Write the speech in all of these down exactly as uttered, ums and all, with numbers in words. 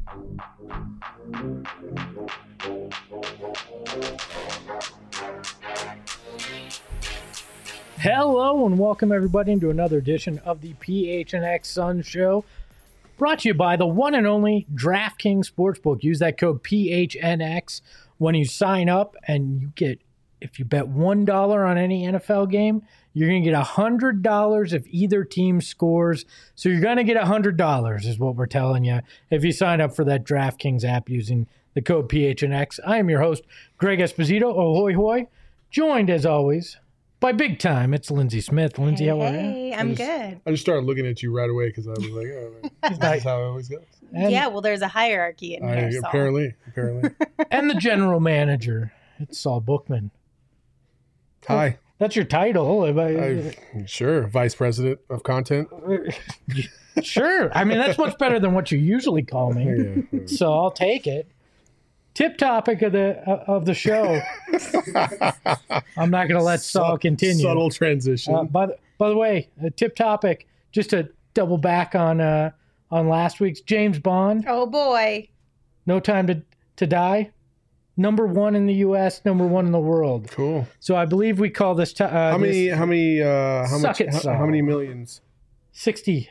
Hello and welcome everybody into another edition of the P H N X Suns Show, brought to you by the one and only DraftKings Sportsbook. Use that code P H N X when you sign up, and you get, if you bet one dollar on any N F L game, you're going to get one hundred dollars if either team scores. So you're going to get one hundred dollars is what we're telling you if you sign up for that DraftKings app using the code P H N X. I am your host, Greg Esposito, ahoy hoy, joined as always by big time, it's Lindsay Smith. Lindsay, hey, how are you? Hey, I'm I just, good. I just started looking at you right away because I was like, oh, this is how it always goes. And, yeah, well, there's a hierarchy in I, here. Saul. apparently, apparently. and the general manager, it's Saul Bookman. Hi. That's your title. I, sure, vice president of content. Sure. I mean, that's much better than what you usually call me. Yeah. So I'll take it. Tip topic of the uh, of the show. I'm not going to let Saul continue. Subtle transition. Uh, by the by the way, a tip topic, just to double back on uh, on last week's James Bond. Oh boy. No Time to to Die. Number one in the U S, number one in the world. Cool. So I believe we call this. T- uh, How many? this How many? Uh, how Suck much? it, how, Saul. how many millions? sixty.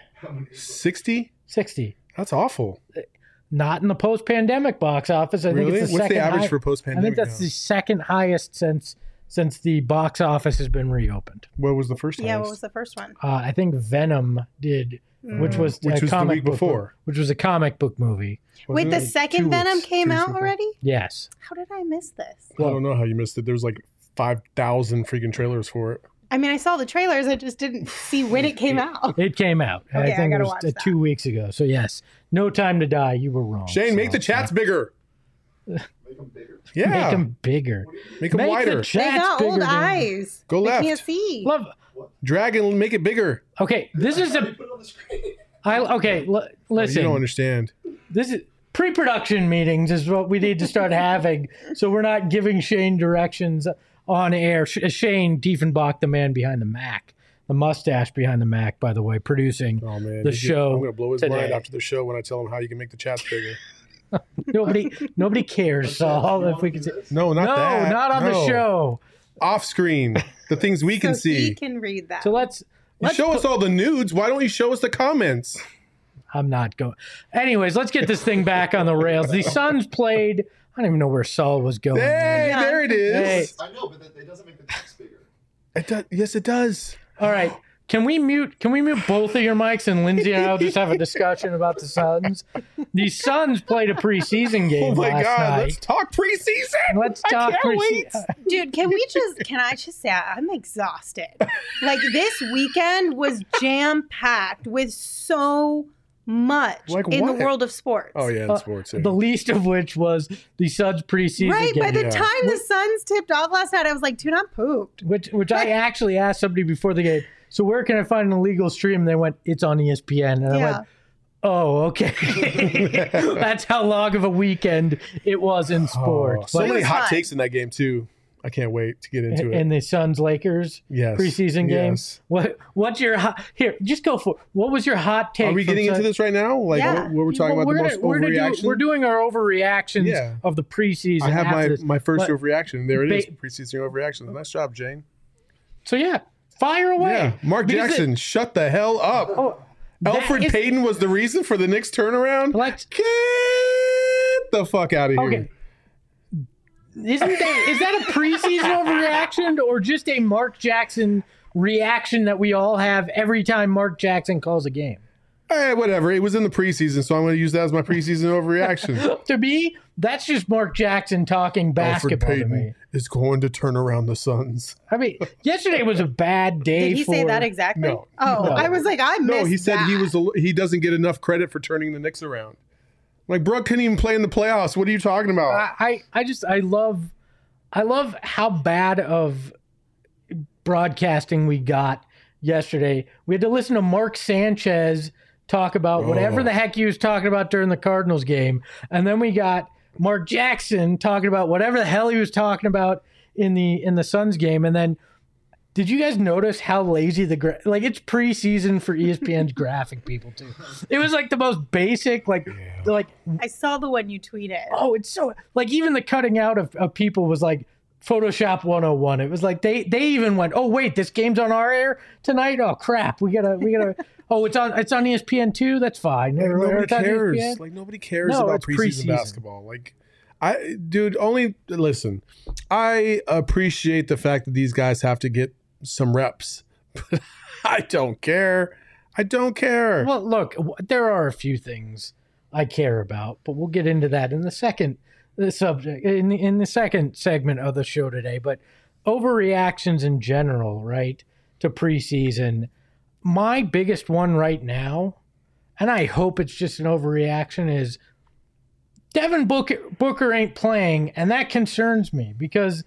Sixty. sixty. That's awful. Not in the post-pandemic box office. I Really? think it's the What's second the average high- for I post-pandemic? think that's now? the second highest since since the box office has been reopened. What was the first? Yeah, highest? what was the first one? Uh, I think Venom did, which Mm. was Which a was the comic week book before. book- which was a comic book movie. Wait, Wasn't the it like second two Venom weeks, came two weeks out before? already? Yes. How did I miss this? I don't know how you missed it. There was like five thousand freaking trailers for it. I mean, I saw the trailers. I just didn't see when it came out. It came out. Okay, I I think it gotta was watch uh, that. two weeks ago. So yes, No Time to Die. You were wrong. Shane, make the chats bigger. Make them bigger. Yeah, Make them bigger. make them Make wider. the They chats got bigger old than- eyes. Go They left. can't see. Love. Drag and make it bigger. Okay, this is a. Put it on the screen. I okay. L- listen. You don't understand. This is pre-production meetings is what we need to start having, so we're not giving Shane directions on air. Sh- Shane Diefenbach, the man behind the Mac, the mustache behind the Mac, by the way, producing Oh man, the He's- show. I'm gonna blow his today. mind after the show when I tell him how you can make the chats bigger. Nobody, nobody cares, Saul. If we can, say, No, not no, that. not on the No. show. Off screen, the things we can so see. he can read that. So let's. You let's show put- us all the nudes. Why don't you show us the comments? I'm not going. Anyways, let's get this thing back on the rails. The Suns played. I don't even know where Saul was going. Hey, Yeah. there it is. I know, but that, it doesn't make the text bigger. It does. Yes, it does. All right. Can we mute can we mute both of your mics, and Lindsay and I'll just have a discussion about the Suns? The Suns played a preseason game Oh my last God! night. Let's talk preseason. Let's I talk can't preseason. wait. Dude, can we just, can I just say, I'm exhausted. Like, this weekend was jam-packed with so much Like in what? the world of sports. Oh yeah, in Uh, sports. yeah. The least of which was the Suns preseason Right, game. by the Yeah. time the Suns tipped off last night, I was like, dude, I'm pooped. which which I actually asked somebody before the game. So where can I find an illegal stream? And they went, it's on E S P N. And I Yeah. went, oh, okay. That's how long of a weekend it was in Oh, sports. so But- It many was hot fun. takes in that game too. I can't wait to get into it. in the Suns Lakers Yes. preseason game. Yes. What what's your hot here? Just go for it. What was your hot take? Are we from getting Sun- into this right now? Like Yeah. what, what we're talking Well, about we're the gonna- most we're gonna do- overreaction? we're doing our overreactions Yeah. of the preseason. I have after my this. my first But- overreaction. There it is. Ba- Preseason overreaction. Nice job, Jane. So yeah, fire away. Yeah. Mark Because Jackson, it- shut the hell up. oh, that Alfred is- Payton was the reason for the Knicks turnaround. Let's- Get the fuck out of here. Okay. Isn't that is that a preseason overreaction or just a Mark Jackson reaction that we all have every time Mark Jackson calls a game? Eh, whatever. It was in the preseason, so I'm going to use that as my preseason overreaction. To me, that's just Mark Jackson talking Alfred basketball to Payton me. is going to turn around the Suns. I mean, yesterday was a bad day. Did he for, say that exactly? No. Oh, No. I was like, I missed No, he said he that. was. A, he doesn't get enough credit for turning the Knicks around. Like, bro couldn't even play in the playoffs. What are you talking about? I, I, I just I love I love how bad of broadcasting we got yesterday. We had to listen to Mark Sanchez talk about whatever Oh. the heck he was talking about during the Cardinals game. And then we got Mark Jackson talking about whatever the hell he was talking about in the in the Suns game. And then Did you guys notice how lazy the gra- like it's preseason for E S P N's graphic people too? It was like the most basic, like Yeah. like I saw the one you tweeted. oh, it's so like even the cutting out of, of people was like Photoshop one oh one. It was like they they even went, oh wait, this game's on our air tonight. Oh crap, we gotta we gotta. Oh, it's on it's on E S P N two. That's fine. Like, Or- or nobody it's on cares. E S P N. Like nobody cares No, about it's preseason, preseason. basketball. Like, I, dude, only listen. I appreciate the fact that these guys have to get some reps, but I don't care. I don't care. Well, look, w- there are a few things I care about, but we'll get into that in the second the subject in the, in the second segment of the show today. But overreactions in general, right, to preseason. My biggest one right now, and I hope it's just an overreaction, is Devin Booker, Booker ain't playing, and that concerns me because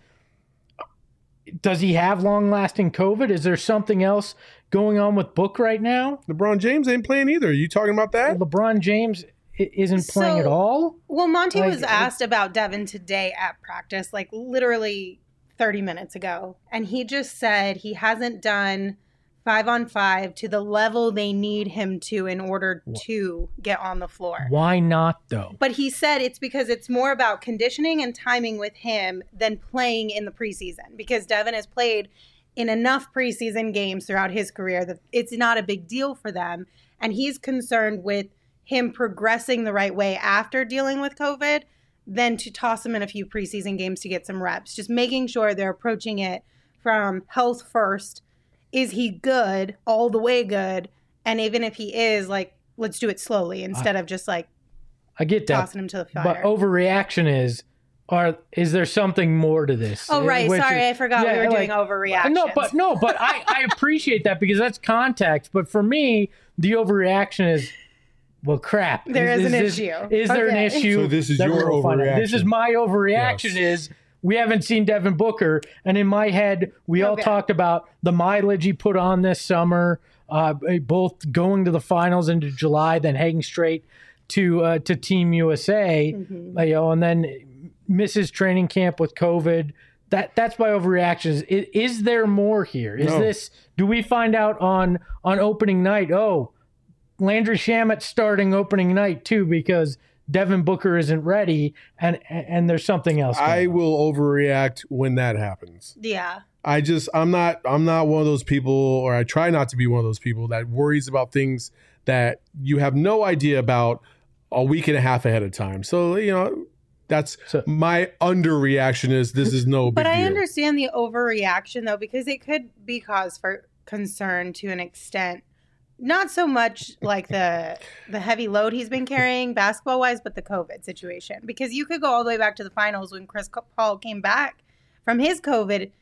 does he have long-lasting COVID? Is there something else going on with Book right now? LeBron James ain't playing either. You talking about that? LeBron James i- isn't playing So- at all. Well, Monty Like, was asked about Devin today at practice, like literally thirty minutes ago. And he just said he hasn't done five on five to the level they need him to in order to get on the floor. Why not though? But he said it's because it's more about conditioning and timing with him than playing in the preseason, because Devin has played in enough preseason games throughout his career that it's not a big deal for them. And he's concerned with him progressing the right way after dealing with COVID than to toss him in a few preseason games to get some reps. Just making sure they're approaching it from health first. Is he good, all the way good? And even if he is, like, let's do it slowly instead of just like I get that, tossing him to the fire. but overreaction is, are is there something more to this? Oh, right. Which Sorry, is- I forgot we yeah, were doing like- overreactions. No, but no, but I, I appreciate that because that's context. But for me, the overreaction is, well, crap. There is an this- issue. Is there an Okay. issue? So this is that your we'll find out? This is overreaction. my overreaction. Yes. Is we haven't seen Devin Booker, and in my head, we all Okay. talked about the mileage he put on this summer, uh, both going to the finals into July, then heading straight to uh, to Team U S A, Mhm. you know, and then misses training camp with COVID. That that's my overreaction. Is, is there more here? Is No. this? Do we find out on on opening night? Oh, Landry Shamet starting opening night too because Devin Booker isn't ready, and and there's something else. I going on. will overreact when that happens. Yeah. I just I'm not I'm not one of those people, or I try not to be one of those people that worries about things that you have no idea about a week and a half ahead of time. So, you know, that's So- my underreaction is this is no big But I deal. understand the overreaction, though, because it could be cause for concern to an extent. Not so much like the the heavy load he's been carrying basketball wise, but the COVID situation. Because you could go all the way back to the finals when Chris Paul came back from his COVID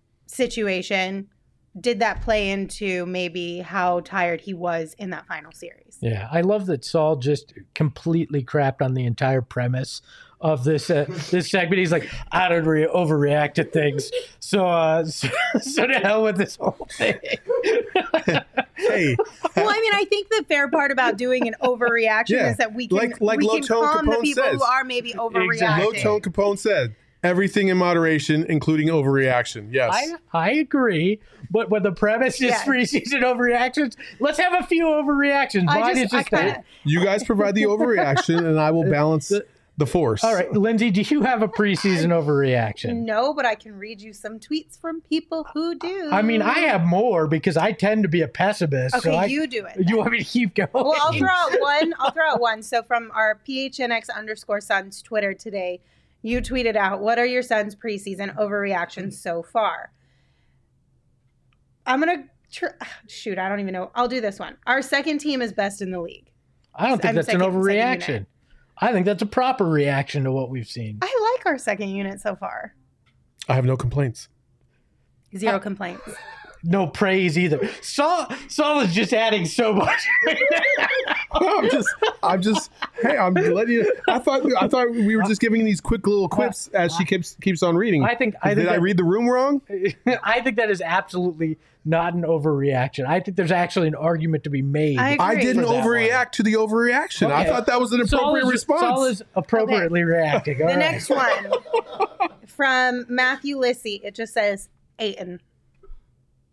situation. Did that play into maybe how tired he was in that final series? Yeah, I love that Saul just completely crapped on the entire premise of this uh, this segment. He's like, I don't re- overreact to things, so uh, so, so to hell with this whole thing. Hey, Well, I mean, I think the fair part about doing an overreaction Yeah, is that we can like- like we Low can Tone calm the Capone people says. who are maybe overreacting. Low Tone Capone said everything in moderation, including overreaction. Yes. I I agree, but when the premise is Yeah. preseason overreactions, let's have a few overreactions. I Mine just, is I just kind that. of, You guys provide the overreaction, and I will balance the force. All right, Lindsay, do you have a preseason overreaction? no, but I can read you some tweets from people who do. I mean, I have more because I tend to be a pessimist. Okay, so I, you do it. You want me to keep going? Well, I'll throw out one. I'll throw out one. So from our P H N X underscore Suns Twitter today, you tweeted out, "What are your Suns preseason overreactions so far?" I'm gonna tr- shoot. I don't even know. I'll do this one. Our second team is best in the league. I don't think I'm that's second- an second overreaction. unit. I think that's a proper reaction to what we've seen. I like our second unit so far. I have no complaints. Zero complaints. No praise either. Saul, Saul is just adding so much. I'm just, I'm just, hey, I'm letting you. I thought, I thought we were just giving these quick little quips as she keeps keeps on reading. I think. I Did think. I that- read the room wrong? I think that is absolutely not an overreaction. I think there's actually an argument to be made. I I agree. didn't For that overreact to the overreaction. I Okay. thought that was an Saul appropriate is, response. Saul is appropriately reacting. All The right. next one from Matthew Lissy. It just says Aiton.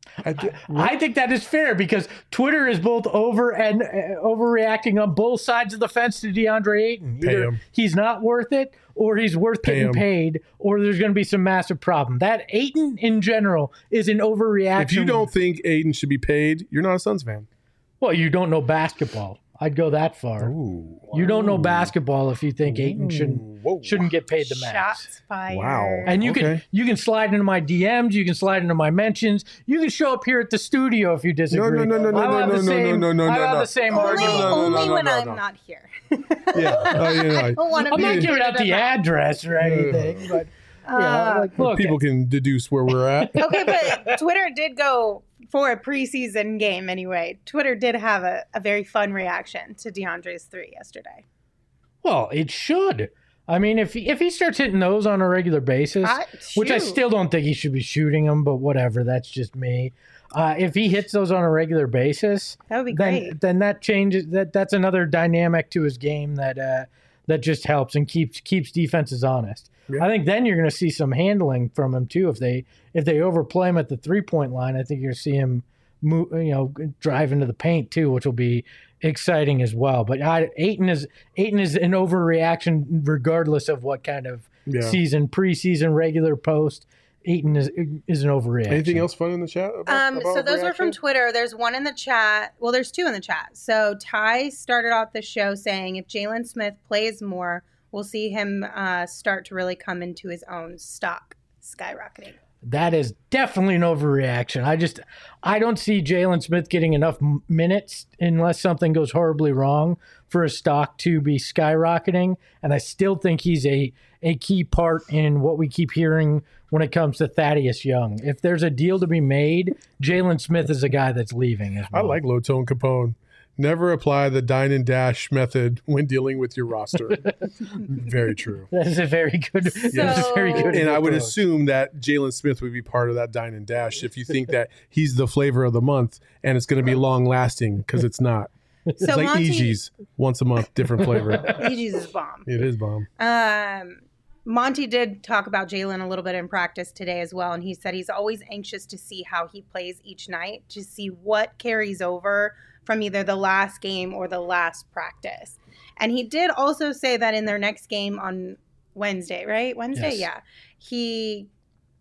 I, th- I think that is fair because Twitter is both over and uh, overreacting on both sides of the fence to DeAndre Ayton. Pay Either him. he's not worth it, or he's worth Pay getting him. paid, or there's going to be some massive problem. That Ayton in general is an overreaction. if you don't think Aiden should be paid, you're not a Suns fan. well, you don't know basketball. I'd go that far. Ooh. You don't know basketball if you think Ayton shouldn't Whoa. shouldn't get paid the max. Shots fired. Wow. And you Okay. can you can slide into my D Ms, you can slide into my mentions, you can show up here at the studio if you disagree. no, no, no, no, I'll no, have the no, no, same- no, no, I'll no, have no. the same Only, argument. no, no, only no, when no, I'm no. not here. Yeah. Oh, you know, I don't want to I'm be not giving out the ad. address or anything, but you know, Uh, like, look, people can deduce where we're at. Okay, but Twitter did go for a preseason game anyway. Twitter did have a, a very fun reaction to DeAndre's three yesterday. well, it should. I mean, if he, if he starts hitting those on a regular basis, I- which I shoot. still don't think he should be shooting them, but whatever, that's just me. Uh, if he hits those on a regular basis, That would be then great. then that changes that that's another dynamic to his game that uh, that just helps and keeps keeps defenses honest. Yeah. I think then you're going to see some handling from him too. If they if they overplay him at the three point line, I think you're going to see him move, you know, drive into the paint too, which will be exciting as well. But I, Ayton is Ayton is an overreaction regardless of what kind of Yeah. season, preseason, regular, post. Ayton is is an overreaction. Anything else fun in the chat? About, Um, about so those were from reaction? Twitter. There's one in the chat. Well, there's two in the chat. So Ty started off the show saying if Jalen Smith plays more, we'll see him uh, start to really come into his own, stock skyrocketing. That is definitely an overreaction. I just, I don't see Jalen Smith getting enough m- minutes unless something goes horribly wrong for his stock to be skyrocketing. And I still think he's a, a key part in what we keep hearing when it comes to Thaddeus Young. If there's a deal to be made, Jalen Smith is a guy that's leaving as I well. like low tone Capone. Never apply the dine and dash method when dealing with your roster. Very true. That is a very good, that is a very good And I would approach. assume that Jalen Smith would be part of that dine and dash if you think that he's the flavor of the month and it's going to be long lasting because it's not. It's So like Monty, E G's once a month, different flavor. E G's is bomb. It is bomb. Um, Monty did talk about Jalen a little bit in practice today as well, and he said he's always anxious to see how he plays each night, to see what carries over from either the last game or the last practice. And he did also say that in their next game on Wednesday, right? Wednesday, Yes. yeah. He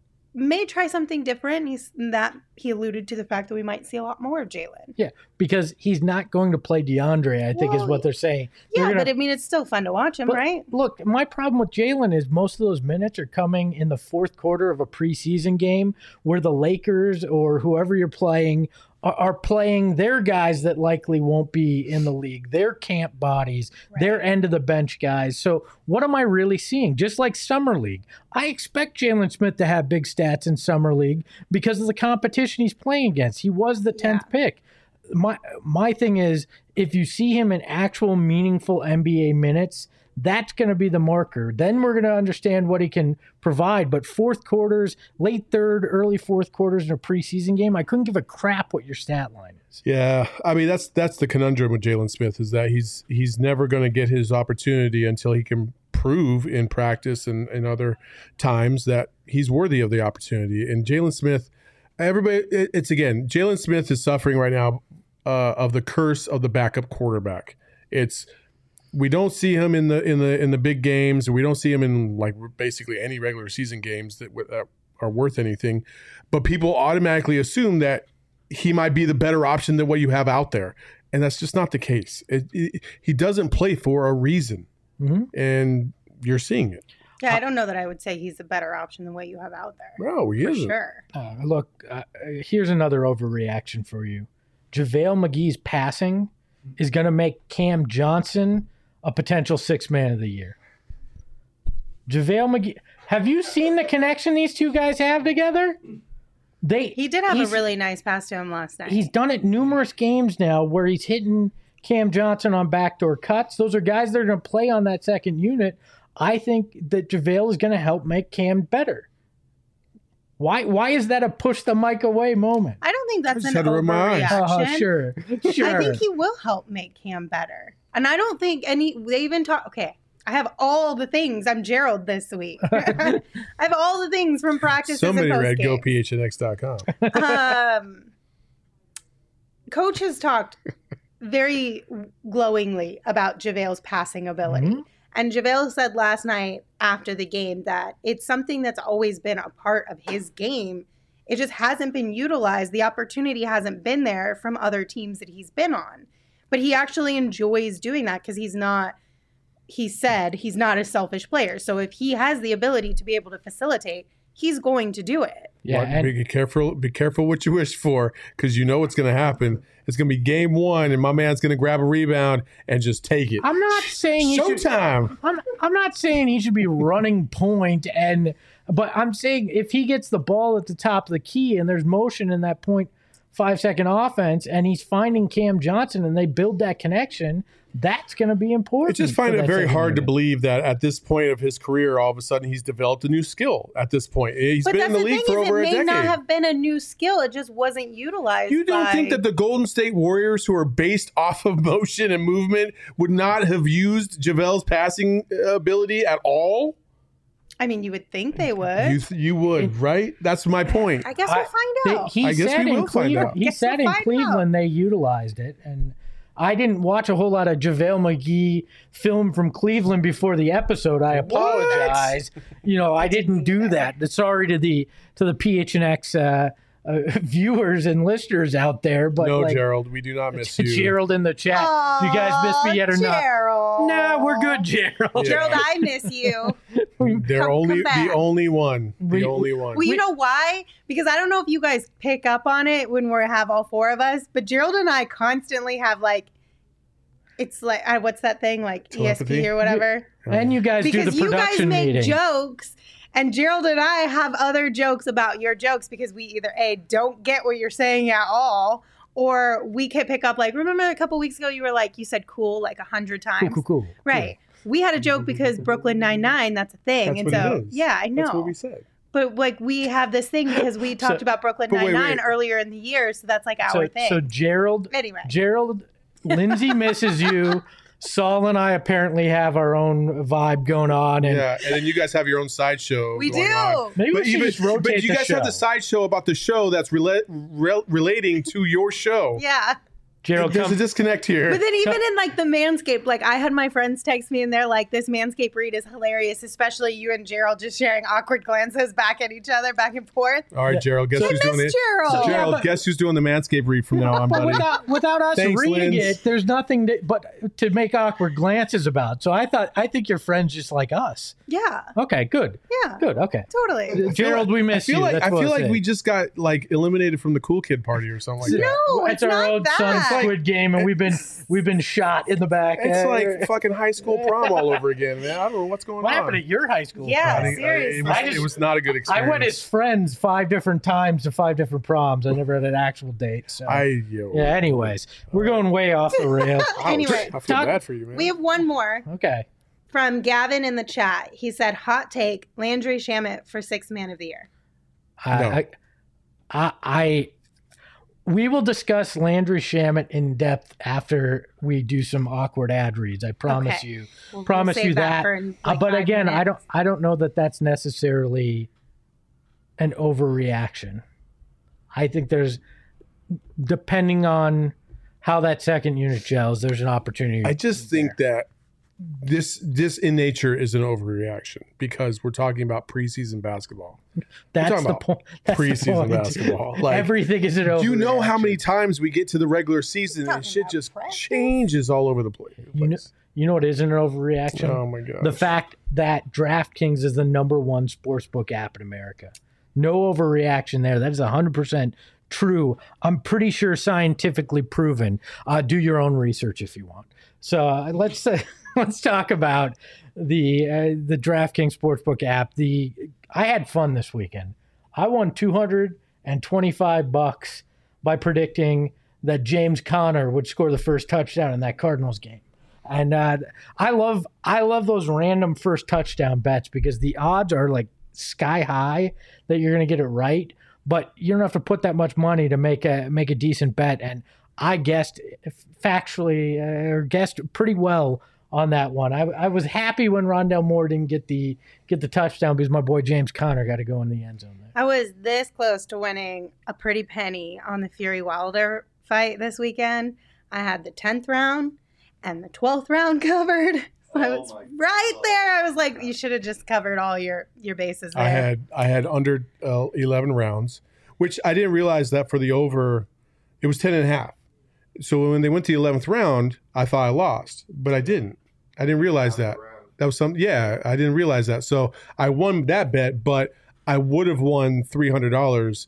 may try something different. He's that he alluded to the fact that we might see a lot more of Jalen. Yeah, because he's not going to play DeAndre, I think is Well, what they're saying. They're Yeah, gonna- but I mean, it's still fun to watch him, But right? Look, my problem with Jalen is most of those minutes are coming in the fourth quarter of a preseason game where the Lakers or whoever you're playing are, are playing their guys that likely won't be in the league, their camp bodies, their end of the bench guys. So what am I really seeing? Just like Summer League. I expect Jalen Smith to have big stats in Summer League because of the competition he's playing against. He was the tenth pick. My my thing is, if you see him in actual meaningful N B A minutes, that's going to be the marker. Then we're going to understand what he can provide. But fourth quarters, late third, early fourth quarters in a preseason game, I couldn't give a crap what your stat line is. Yeah, I mean that's that's the conundrum with Jalen Smith is that he's he's never going to get his opportunity until he can prove in practice and, and other times that he's worthy of the opportunity. And Jalen Smith, everybody, it, it's again, Jalen Smith is suffering right now uh, of the curse of the backup quarterback. It's we don't see him in the in the in the big games, or we don't see him in like basically any regular season games that, that are worth anything. But people automatically assume that he might be the better option than what you have out there, and that's just not the case. It, it, he doesn't play for a reason, Mm-hmm. and you're seeing it. Yeah, I don't know that I would say he's a better option than what you have out there. No, he For isn't. sure. Uh, look, uh, here's another overreaction for you. JaVale McGee's passing is going to make Cam Johnson a potential sixth man of the year. JaVale McGee, have you seen the connection these two guys have together? They He did have a he's- really nice pass to him last night. He's done it numerous games now where he's hitting Cam Johnson on backdoor cuts. Those are guys that are going to play on that second unit. I think that JaVale is going to help make Cam better. Why Why is that a push the mic away moment? I don't think that's just an had to rub my eyes. overreaction. Oh, sure. Sure. I think he will help make Cam better. And I don't think any, they even talk, okay, I have all the things. I'm Gerald this week. I have all the things from practices. Somebody and read post-game. go P H N X dot com. Um, Coach has talked very glowingly about JaVale's passing ability. Mhm. And JaVale said last night after the game that it's something that's always been a part of his game. It just hasn't been utilized. The opportunity hasn't been there from other teams that he's been on. But he actually enjoys doing that because he's not, he said, he's not a selfish player. So if he has the ability to be able to facilitate, he's going to do it. Yeah, Well, and- be careful. Be careful what you wish for, because you know what's going to happen. It's going to be game one, and my man's going to grab a rebound and just take it. I'm not saying he should, Showtime. I'm I'm not saying he should be running point and but I'm saying if he gets the ball at the top of the key and there's motion in that point five second offense and he's finding Cam Johnson and they build that connection, that's going to be I important. just for find it that very second hard to unit. believe that at this point of his career, all of a sudden he's developed a new skill. At this point, he's But been that's in the the league thing for is over it a may decade. not have been a new skill. It just wasn't utilized. You don't by- think that the Golden State Warriors, who are based off of motion and movement, would not have used JaVale's passing ability at all? I mean, you would think they would. You th- you would, right? That's my point. I guess I- we'll find They- out. he I guess said we in will find Cleveland, out. He Guess said we'll in find Cleveland they utilized it, and I didn't watch a whole lot of JaVale McGee film from Cleveland before the episode. I apologize. You know, I didn't do that. Sorry to the to the P H N X uh, uh, viewers and listeners out there, but no, like, Gerald, we do not miss you. Gerald in the chat. Do you guys miss me yet or not? Gerald. No, we're good, Gerald. Yeah. Gerald, I miss you. They're Come- only come back. the only one. The We- only one. Well, you know why? Because I don't know if you guys pick up on it when we have all four of us, but Gerald and I constantly have like, it's like, uh, what's that thing? Like E S Telepathy? P or whatever. And you guys do Because the you guys production make meeting. jokes, and Gerald and I have other jokes about your jokes because we either A, don't get what you're saying at all, or we can pick up, like, remember a couple weeks ago you were like, you said cool like a hundred times. Cool, cool, cool. Right. We had a joke because Brooklyn Nine-Nine, that's a thing. That's and what so, it is. yeah, I know. That's what we said. But like we have this thing because we talked So- about Brooklyn but wait, Nine-Nine wait. earlier in the year, so that's like our So, thing. so Gerald, anyway, Gerald, Lindsay misses you. Saul and I apparently have our own vibe going on, and Yeah, and then you guys have your own sideshow. we going do. on. maybe we But should even just rotate but you the guys show. have the sideshow about the show that's rela- rel- relating to your show. Yeah. Gerald, There's come, a disconnect here. But then even in like the Manscaped, like I had my friends text me and they're like, this Manscaped read is hilarious, especially you and Gerald just sharing awkward glances back at each other, back and forth. All right, Gerald, guess So- who's doing Miss it? Gerald. So- Gerald, Yeah, but- guess who's doing the Manscaped read from now on, but buddy? without, without us Thanks, reading Linz. it, there's nothing to, but to make awkward glances about. So I thought, I think your friend's just like us. Yeah. Okay, good, Yeah. good. Okay, Totally. Gerald, we I miss feel you. like That's I what feel like saying. we just got like eliminated from the cool kid party or something like that. No, it's, it's our not old son that. Squid Game, and we've been we've been shot in the back. It's Uh, like fucking high school prom all over again, man. I don't know what's going what on. happened at your high school? Yeah, prom? I think- I- seriously. It was, I just- it was not a good I experience. went as friends five different times to five different proms. I never had an actual date. So I yo. yeah. Anyways, we're going way off the rails. Ouch. Anyway, I feel talk- bad for you, man. We have one more Okay. from Gavin in the chat. He said, hot take, Landry Shamet for sixth man of the year. I, No. I, I, I, we will discuss Landry Shamet in depth after we do some awkward ad reads. I promise Okay. you. We'll- we'll Promise save you that. for, like, Uh, but five again, I minutes. don't. I don't know that that's necessarily an overreaction. I think there's, depending on how that second unit gels, there's an opportunity. I just think that this this in nature is an overreaction because we're talking about preseason basketball. that's talking the about point. That's the preseason point. basketball. Like, Everything is an overreaction. Do you know how many times we get to the regular season and Talking shit about just practice? changes all over the place? You know, you know what isn't an overreaction? Oh my god! The fact that DraftKings is the number one sportsbook app in America. No overreaction there. That is one hundred percent true. I'm pretty sure scientifically proven. Uh, do your own research if you want. So uh, let's uh, let's talk about the uh, the DraftKings Sportsbook app. The I had fun this weekend. I won two hundred twenty-five bucks by predicting that James Conner would score the first touchdown in that Cardinals game. And uh, I love I love those random first touchdown bets because the odds are like sky high that you're going to get it right, but you don't have to put that much money to make a make a decent bet. And I guessed factually uh, or guessed pretty well on that one. I, I was happy when Rondell Moore didn't get the get the touchdown because my boy James Conner got to go in the end zone there. I was this close to winning a pretty penny on the Fury Wilder fight this weekend. I had the tenth round and the twelfth round covered. So I Oh was my right God. there. I was like, you should have just covered all your, your bases there. I had I had under uh, eleven rounds, which I didn't realize that for the over, it was ten and a half. So when they went to the eleventh round, I thought I lost, but I didn't. I didn't realize that. That was some, yeah, I didn't realize that. So I won that bet, but I would have won three hundred dollars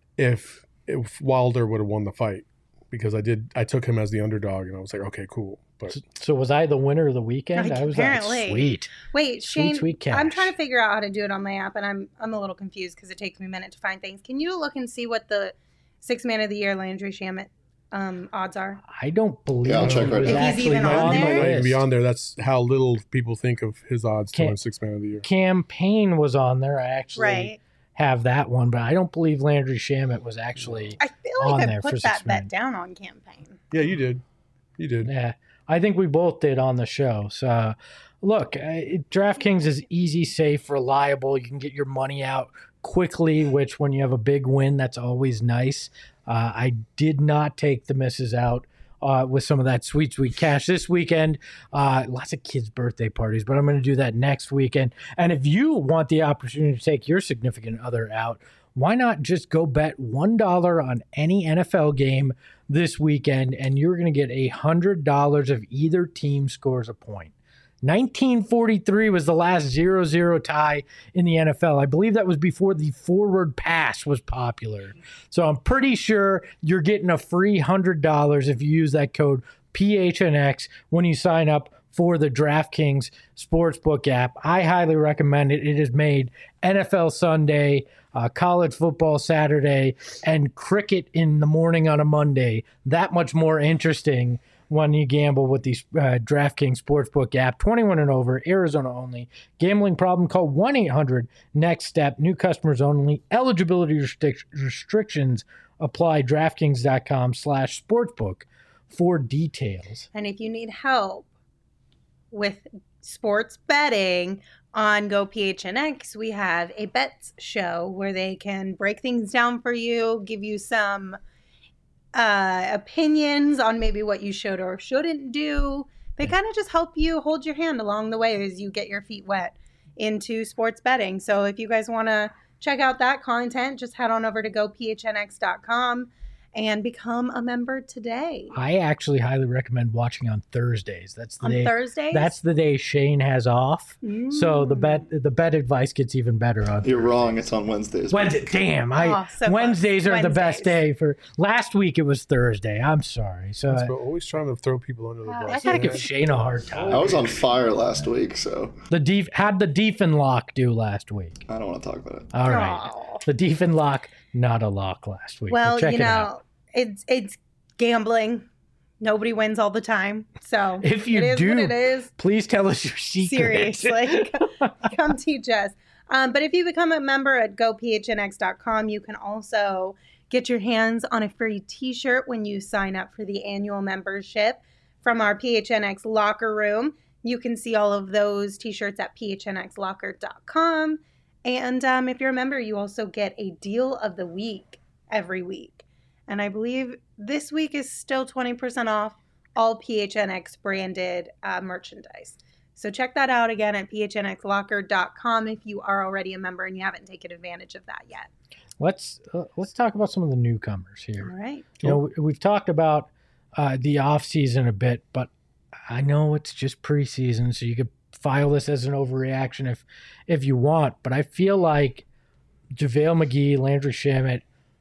if, if Wilder would have won the fight because I did, I took him as the underdog and I was like, okay, cool. But So was I the winner of the weekend? Like, I was like, apparently. sweet. Wait, Sweet, Shane, sweet cash. I'm trying to figure out how to do it on my app, and I'm I'm a little confused because it takes me a minute to find things. Can you look and see what the six man of the year Landry Shamet um, odds are? I don't believe Yeah, I'll he check right was now. If he's actually even on on he the might there? not even be list. on there. That's how little people think of his odds to Can't- win six man of the year. Campaign was on there. I actually Right. have that one, but I don't believe Landry Shamet was actually. I feel On like I there for put six that men. bet down on campaign. Yeah, you did. You did. Yeah, I think we both did on the show. So, uh, look, uh, DraftKings is easy, safe, reliable. You can get your money out quickly, which when you have a big win, that's always nice. Uh, I did not take the misses out uh, with some of that sweet, sweet cash this weekend. Uh, lots of kids' birthday parties, but I'm going to do that next weekend. And if you want the opportunity to take your significant other out, why not just go bet one dollar on any N F L game this weekend, and you're going to get one hundred dollars if either team scores a point. nineteen forty-three was the last zero zero tie in the N F L. I believe that was before the forward pass was popular. So I'm pretty sure you're getting a free one hundred dollars if you use that code P H N X when you sign up for the DraftKings Sportsbook app. I highly recommend it. It has made N F L Sunday, uh, college football Saturday, and cricket in the morning on a Monday that much more interesting when you gamble with the uh, DraftKings Sportsbook app. twenty-one and over, Arizona only. Gambling problem, call one eight hundred next step. New customers only. Eligibility restric- restrictions apply. DraftKings.com slash sportsbook for details. And if you need help with sports betting on Go P H N X, we have a bets show where they can break things down for you, give you some uh, opinions on maybe what you should or shouldn't do. They kind of just help you hold your hand along the way as you get your feet wet into sports betting. So if you guys want to check out that content, just head on over to go P H N X dot com and become a member today. I actually highly recommend watching on Thursdays. That's the On day. Thursdays? That's the day Shane has off. So the bet the bet advice gets even better on You're wrong. It's on Wednesdays. Wednesday. Damn, I Oh, so Wednesdays close. are the best Wednesdays. day for. Last week it was Thursday. I'm sorry. So That's I, what- always trying to throw people under the Wow, bus. I gotta man. give Shane a hard time. I was on fire last week, so The def how'd the Deefin lock do last week? I don't want to talk about it. All right, Aw. the Deefin lock, not a lock last week. Well, but check you it know, out. it's it's gambling. Nobody wins all the time. So If you it is do, what it is. Please tell us your secret. Seriously, come teach us. Um, but if you become a member at go P H N X dot com, you can also get your hands on a free t-shirt when you sign up for the annual membership from our P H N X locker room. You can see all of those t-shirts at P H N X locker dot com. And um, if you're a member, you also get a deal of the week every week. And I believe this week is still twenty percent off all P H N X branded uh, merchandise. So check that out again at P H N X locker dot com if you are already a member and you haven't taken advantage of that yet. Let's uh, let's talk about some of the newcomers here. All right. You know, we- we've talked about uh, the off season a bit, but I know it's just preseason, so you could file this as an overreaction if if you want. But I feel like JaVale McGee, Landry Shamet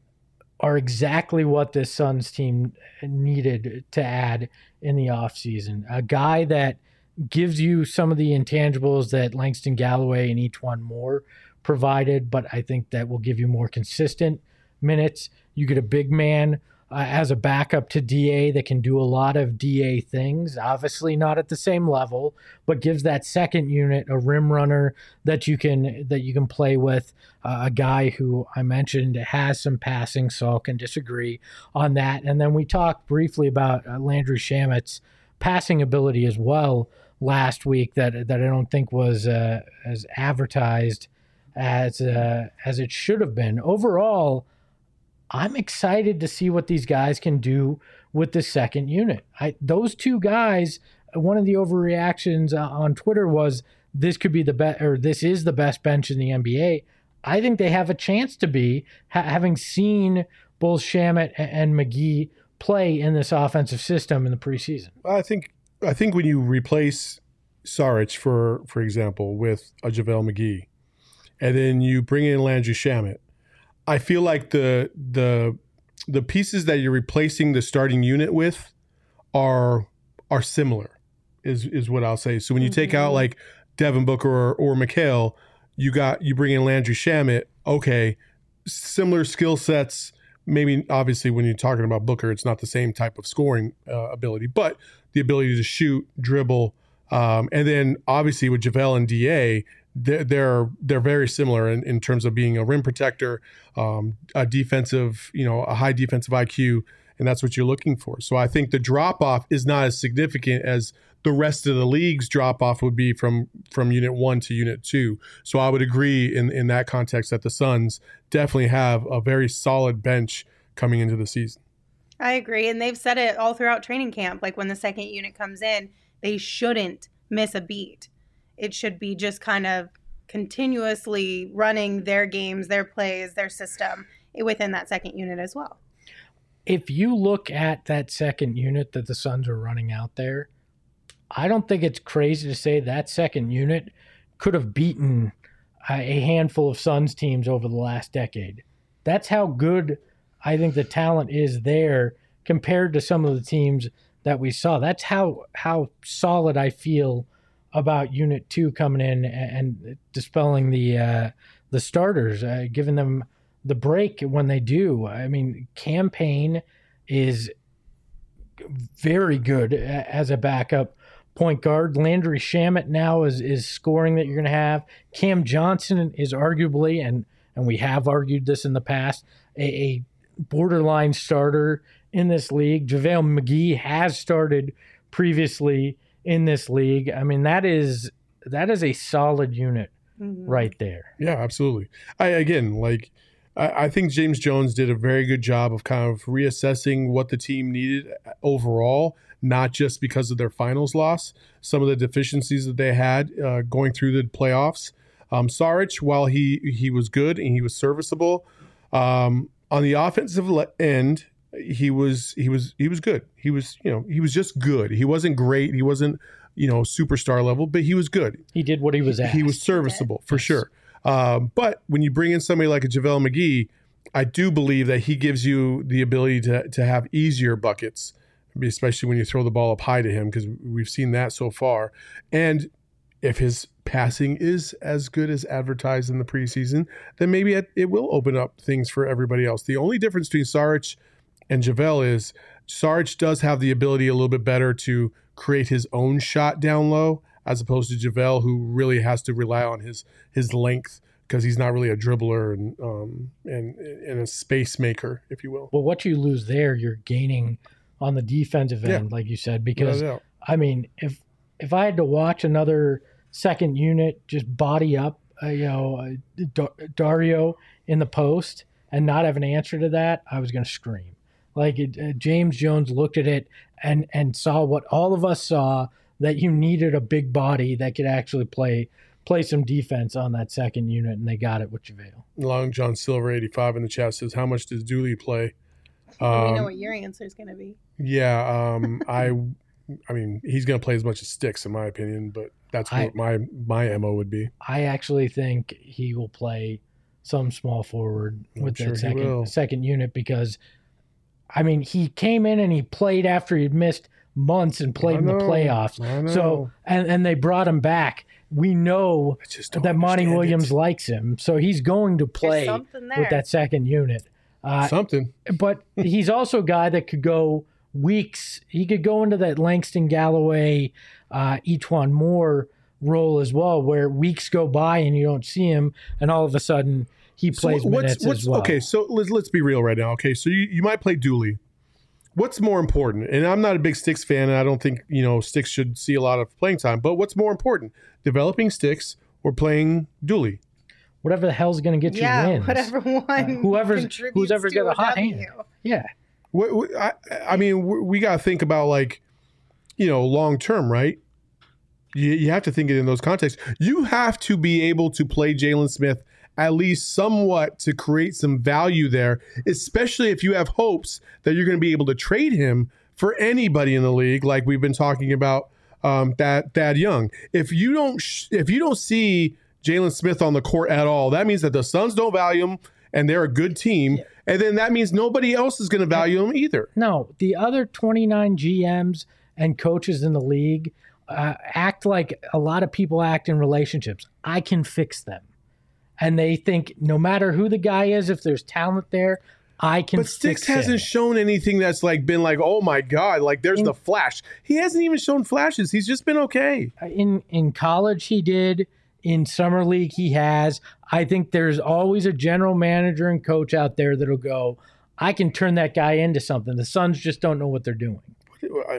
are exactly what this Suns team needed to add in the offseason. A guy that gives you some of the intangibles that Langston Galloway and E'Twaun Moore provided, but I think that will give you more consistent minutes. You get a big man uh, as a backup to D A that can do a lot of D A things, obviously not at the same level, but gives that second unit a rim runner that you can that you can play with, uh, a guy who I mentioned has some passing, so I can disagree on that. And then we talked briefly about uh, Landry Shamet's passing ability as well last week that that I don't think was uh, as advertised as uh, as it should have been. Overall, I'm excited to see what these guys can do with the second unit. I, those two guys, one of the overreactions uh, on Twitter was this could be the best, or this is the best bench in the N B A. I think they have a chance to be, ha- having seen both Shamet and McGee play in this offensive system in the preseason. I think I think when you replace Saric, for for example, with a JaVale McGee, and then you bring in Landry Shamet, I feel like the the the pieces that you're replacing the starting unit with are are similar, is is what I'll say. So when you mm-hmm. take out like Devin Booker or, or Mikal, you got you bring in Landry Shamet. Okay, similar skill sets. Maybe obviously when you're talking about Booker, it's not the same type of scoring uh, ability, but the ability to shoot, dribble, um, and then obviously with JaVale and D A, they're they're, they're very similar in, in terms of being a rim protector, um, a defensive, you know, a high defensive I Q, and that's what you're looking for. So I think the drop off is not as significant as the rest of the league's drop off would be from from unit one to unit two. So I would agree in in that context that the Suns definitely have a very solid bench coming into the season. I agree, and they've said it all throughout training camp. Like when the second unit comes in, they shouldn't miss a beat. It should be just kind of continuously running their games, their plays, their system within that second unit as well. If you look at that second unit that the Suns are running out there, I don't think it's crazy to say that second unit could have beaten a handful of Suns teams over the last decade. That's how good I think the talent is there compared to some of the teams that we saw. That's how how solid I feel about Unit Two coming in and dispelling the uh, the starters, uh, giving them the break when they do. I mean, Cam Payne is very good as a backup point guard. Landry Shamet now is is scoring that you're going to have. Cam Johnson is arguably, and and we have argued this in the past, a, a borderline starter in this league. JaVale McGee has started previously in this league. I mean, that is that is a solid unit mm-hmm. right there. Yeah, absolutely. I again, like, I, I think James Jones did a very good job of kind of reassessing what the team needed overall, not just because of their finals loss, some of the deficiencies that they had uh, going through the playoffs. Um, Saric, while he he was good and he was serviceable, um, on the offensive end, he was he was he was good. He was you know he was just good. He wasn't great. He wasn't you know superstar level, but he was good. He did what he was asked. He was serviceable for yes. sure. Um, but when you bring in somebody like a JaVale McGee, I do believe that he gives you the ability to to have easier buckets, especially when you throw the ball up high to him, because we've seen that so far. And if his passing is as good as advertised in the preseason, then maybe it, it will open up things for everybody else. The only difference between Saric and JaVale is Saric does have the ability a little bit better to create his own shot down low, as opposed to JaVale, who really has to rely on his his length because he's not really a dribbler and um and and a space maker, if you will. Well, what you lose there, you're gaining on the defensive end, yeah. like you said, because no I mean, if if I had to watch another second unit just body up, uh, you know, uh, D- Dario in the post and not have an answer to that, I was going to scream. Like it, uh, James Jones looked at it and and saw what all of us saw, that you needed a big body that could actually play play some defense on that second unit, and they got it with JaVale. Long John Silver eighty-five in the chat says, "How much does Dooley play?" Um, we know what your answer is going to be. Yeah, um, I, I mean, he's going to play as much as sticks, in my opinion, but that's what I, my my M O would be. I actually think he will play some small forward I'm with sure that second second unit because, I mean, he came in and he played after he'd missed months and played in the playoffs. So and, and they brought him back. We know that Monty Williams it. likes him, so he's going to play with that second unit. Uh, something. But he's also a guy that could go weeks. He could go into that Langston Galloway, uh, Etuan Moore role as well, where weeks go by and you don't see him, and all of a sudden he plays so what's, minutes what's, as well. Okay, so let's let's be real right now. Okay, so you, you might play Dooley. what's more important? And I'm not a big Sticks fan, and I don't think, you know, Sticks should see a lot of playing time. But what's more important, developing Sticks or playing Dooley? Whatever the hell's going to get yeah, you wins. whatever one Uh, whoever's contributes who's ever to got a hot W. hand. Yeah. What, what, I, I mean, we, we got to think about, like, you know, long term, right? You, you have to think it in those contexts. You have to be able to play Jalen Smith at least somewhat to create some value there, especially if you have hopes that you're going to be able to trade him for anybody in the league, like we've been talking about um, Thad, Thad Young. If you don't, sh- if you don't see Jalen Smith on the court at all, that means that the Suns don't value him and they're a good team, yeah. and then that means nobody else is going to value him either. No, the other twenty-nine G Ms and coaches in the league uh, act like a lot of people act in relationships. I can fix them. And they think no matter who the guy is, if there's talent there, I can But Sticks fix him. hasn't shown anything that's like been like, oh my God, like there's in, the flash. He hasn't even shown flashes. He's just been okay. In in college he did. In summer league he has. I think there's always a general manager and coach out there that'll go, I can turn that guy into something. The Suns just don't know what they're doing. I,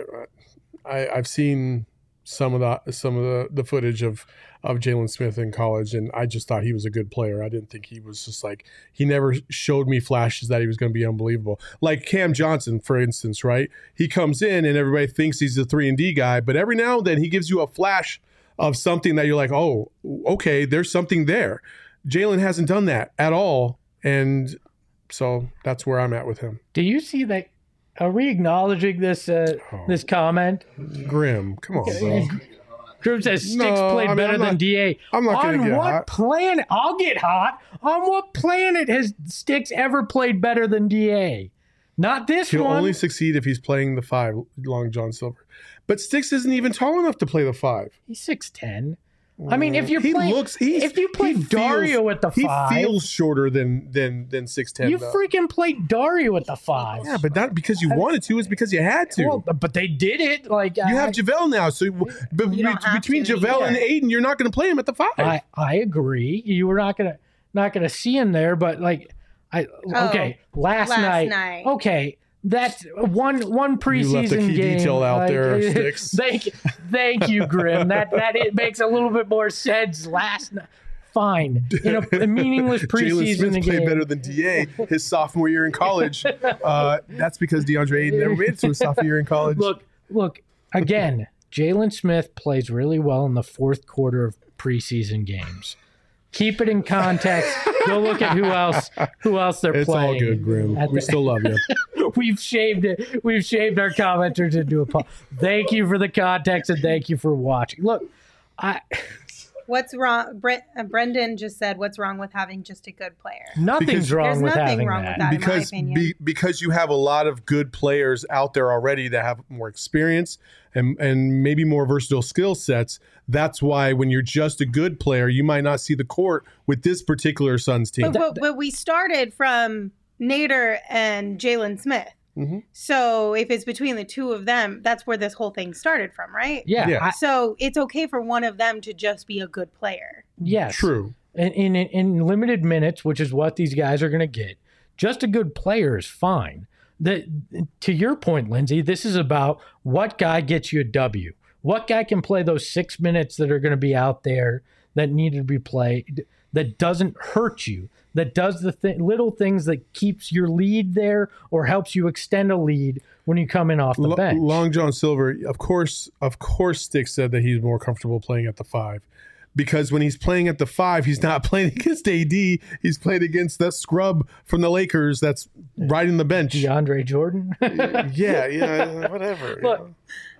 I, I've seen some of the some of the, the footage of of Jalen Smith in college, and I just thought he was a good player. I didn't think he was just like, he never showed me flashes that he was going to be unbelievable. Like Cam Johnson, for instance, right? He comes in and everybody thinks he's a three and D guy, but every now and then he gives you a flash of something that you're like, oh, okay, there's something there. Jalen hasn't done that at all, and so that's where I'm at with him. Do you see that? Are we acknowledging this uh, oh. this comment? Grim, come on, bro. Grim says Sticks no, played I mean, better I'm not, than D A. I'm not going to get On what hot. planet? I'll get hot. On what planet has Sticks ever played better than D A? Not this He'll one. He'll only succeed if he's playing the five, Long John Silver. But Sticks isn't even tall enough to play the five. He's six ten. I mean, if you're he playing, looks, he's, if you play Dario feels, at the five, he feels shorter than than than six ten. You though. freaking played Dario at the five. Yeah, but not because you wanted to. It's because you had to. Well, but they did it. Like you I, have JaVale now, so but you don't have between to, JaVale yeah. and Aiden, you're not going to play him at the five. I I agree. You were not gonna not gonna see him there, but like I Oh, okay last, last night, night. Okay. That's one one preseason You left a key game. detail out like, there, Sticks. Thank, thank you, Grim. That that it makes a little bit more sense. Last night, fine in a, a meaningless Jalen preseason Smith game. played better than D A his sophomore year in college. Uh, that's because DeAndre Ayton never made it to his sophomore year in college. Look, look again. Jalen Smith plays really well in the fourth quarter of preseason games. Keep it in context. Go look at who else who else they're it's playing. all good, Grim. At We the- still love you. We've shaved it. We've shaved our commenters into a. Po- thank you for the context and thank you for watching. Look, I What's wrong? Brent, uh, Brendan just said, "What's wrong with having just a good player?" nothing's Because- wrong There's with nothing having wrong that. with that. in my because opinion. be, because you have a lot of good players out there already that have more experience and and maybe more versatile skill sets. That's why when you're just a good player, you might not see the court with this particular Suns team. But, but, but we started from Nader and Jalen Smith. Mm-hmm. So if it's between the two of them, that's where this whole thing started from, right? Yeah. Yeah. I- So it's okay for one of them to just be a good player. yes. True. In, in in limited minutes, which is what these guys are going to get, just a good player is fine. The, to your point, Lindsay, this is about what guy gets you a W. What guy can play those six minutes that are going to be out there that need to be played, that doesn't hurt you, that does the th- little things that keeps your lead there or helps you extend a lead when you come in off the Lo- bench. Long John Silver, of course, of course, Stick said that he's more comfortable playing at the five. Because when he's playing at the five, he's not playing against A D. He's playing against that scrub from the Lakers that's riding the bench. DeAndre Jordan. yeah, yeah, whatever. Look, you know.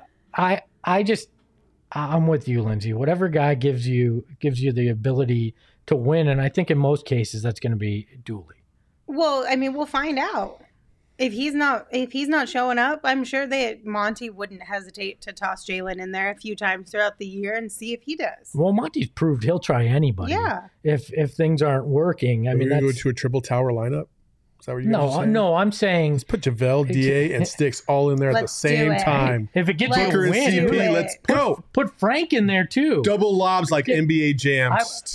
I I just I'm with you, Lindsay. Whatever guy gives you gives you the ability to win, and I think in most cases that's going to be Dooley. Well, I mean, we'll find out. If he's not if he's not showing up, I'm sure that Monty wouldn't hesitate to toss Jalen in there a few times throughout the year and see if he does. Well, Monty's proved he'll try anybody. Yeah. If if things aren't working, I Are mean, we going to go that's, to a triple tower lineup? Is that what you guys are no, saying? no. I'm saying Let's put JaVale, D A, and Sticks all in there at the Let's do same it. time. if it gets Let's you Booker a and win, C P, do it. let's go. put Frank in there too. Double lobs like N B A Jam.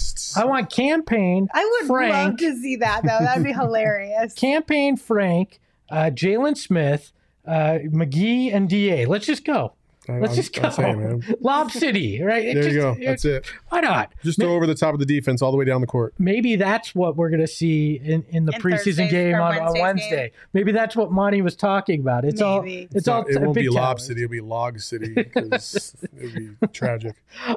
I want campaign. I would Frank, love to see that though. That'd be hilarious. campaign Frank, uh, Jalen Smith, uh, McGee and D A. Let's just go. Let's I'm, just go. I'm saying, man. Lob City, right? It There just, you go. it- That's it. Why not? Just throw over the top of the defense all the way down the court. Maybe that's what we're going to see in, in the In preseason Thursday's game or on, on Wednesday's Wednesday. game. Maybe that's what Monty was talking about. It's all. Maybe. It's all. It won't Big be Ten. Lob City. It'll be Log City because it would be tragic.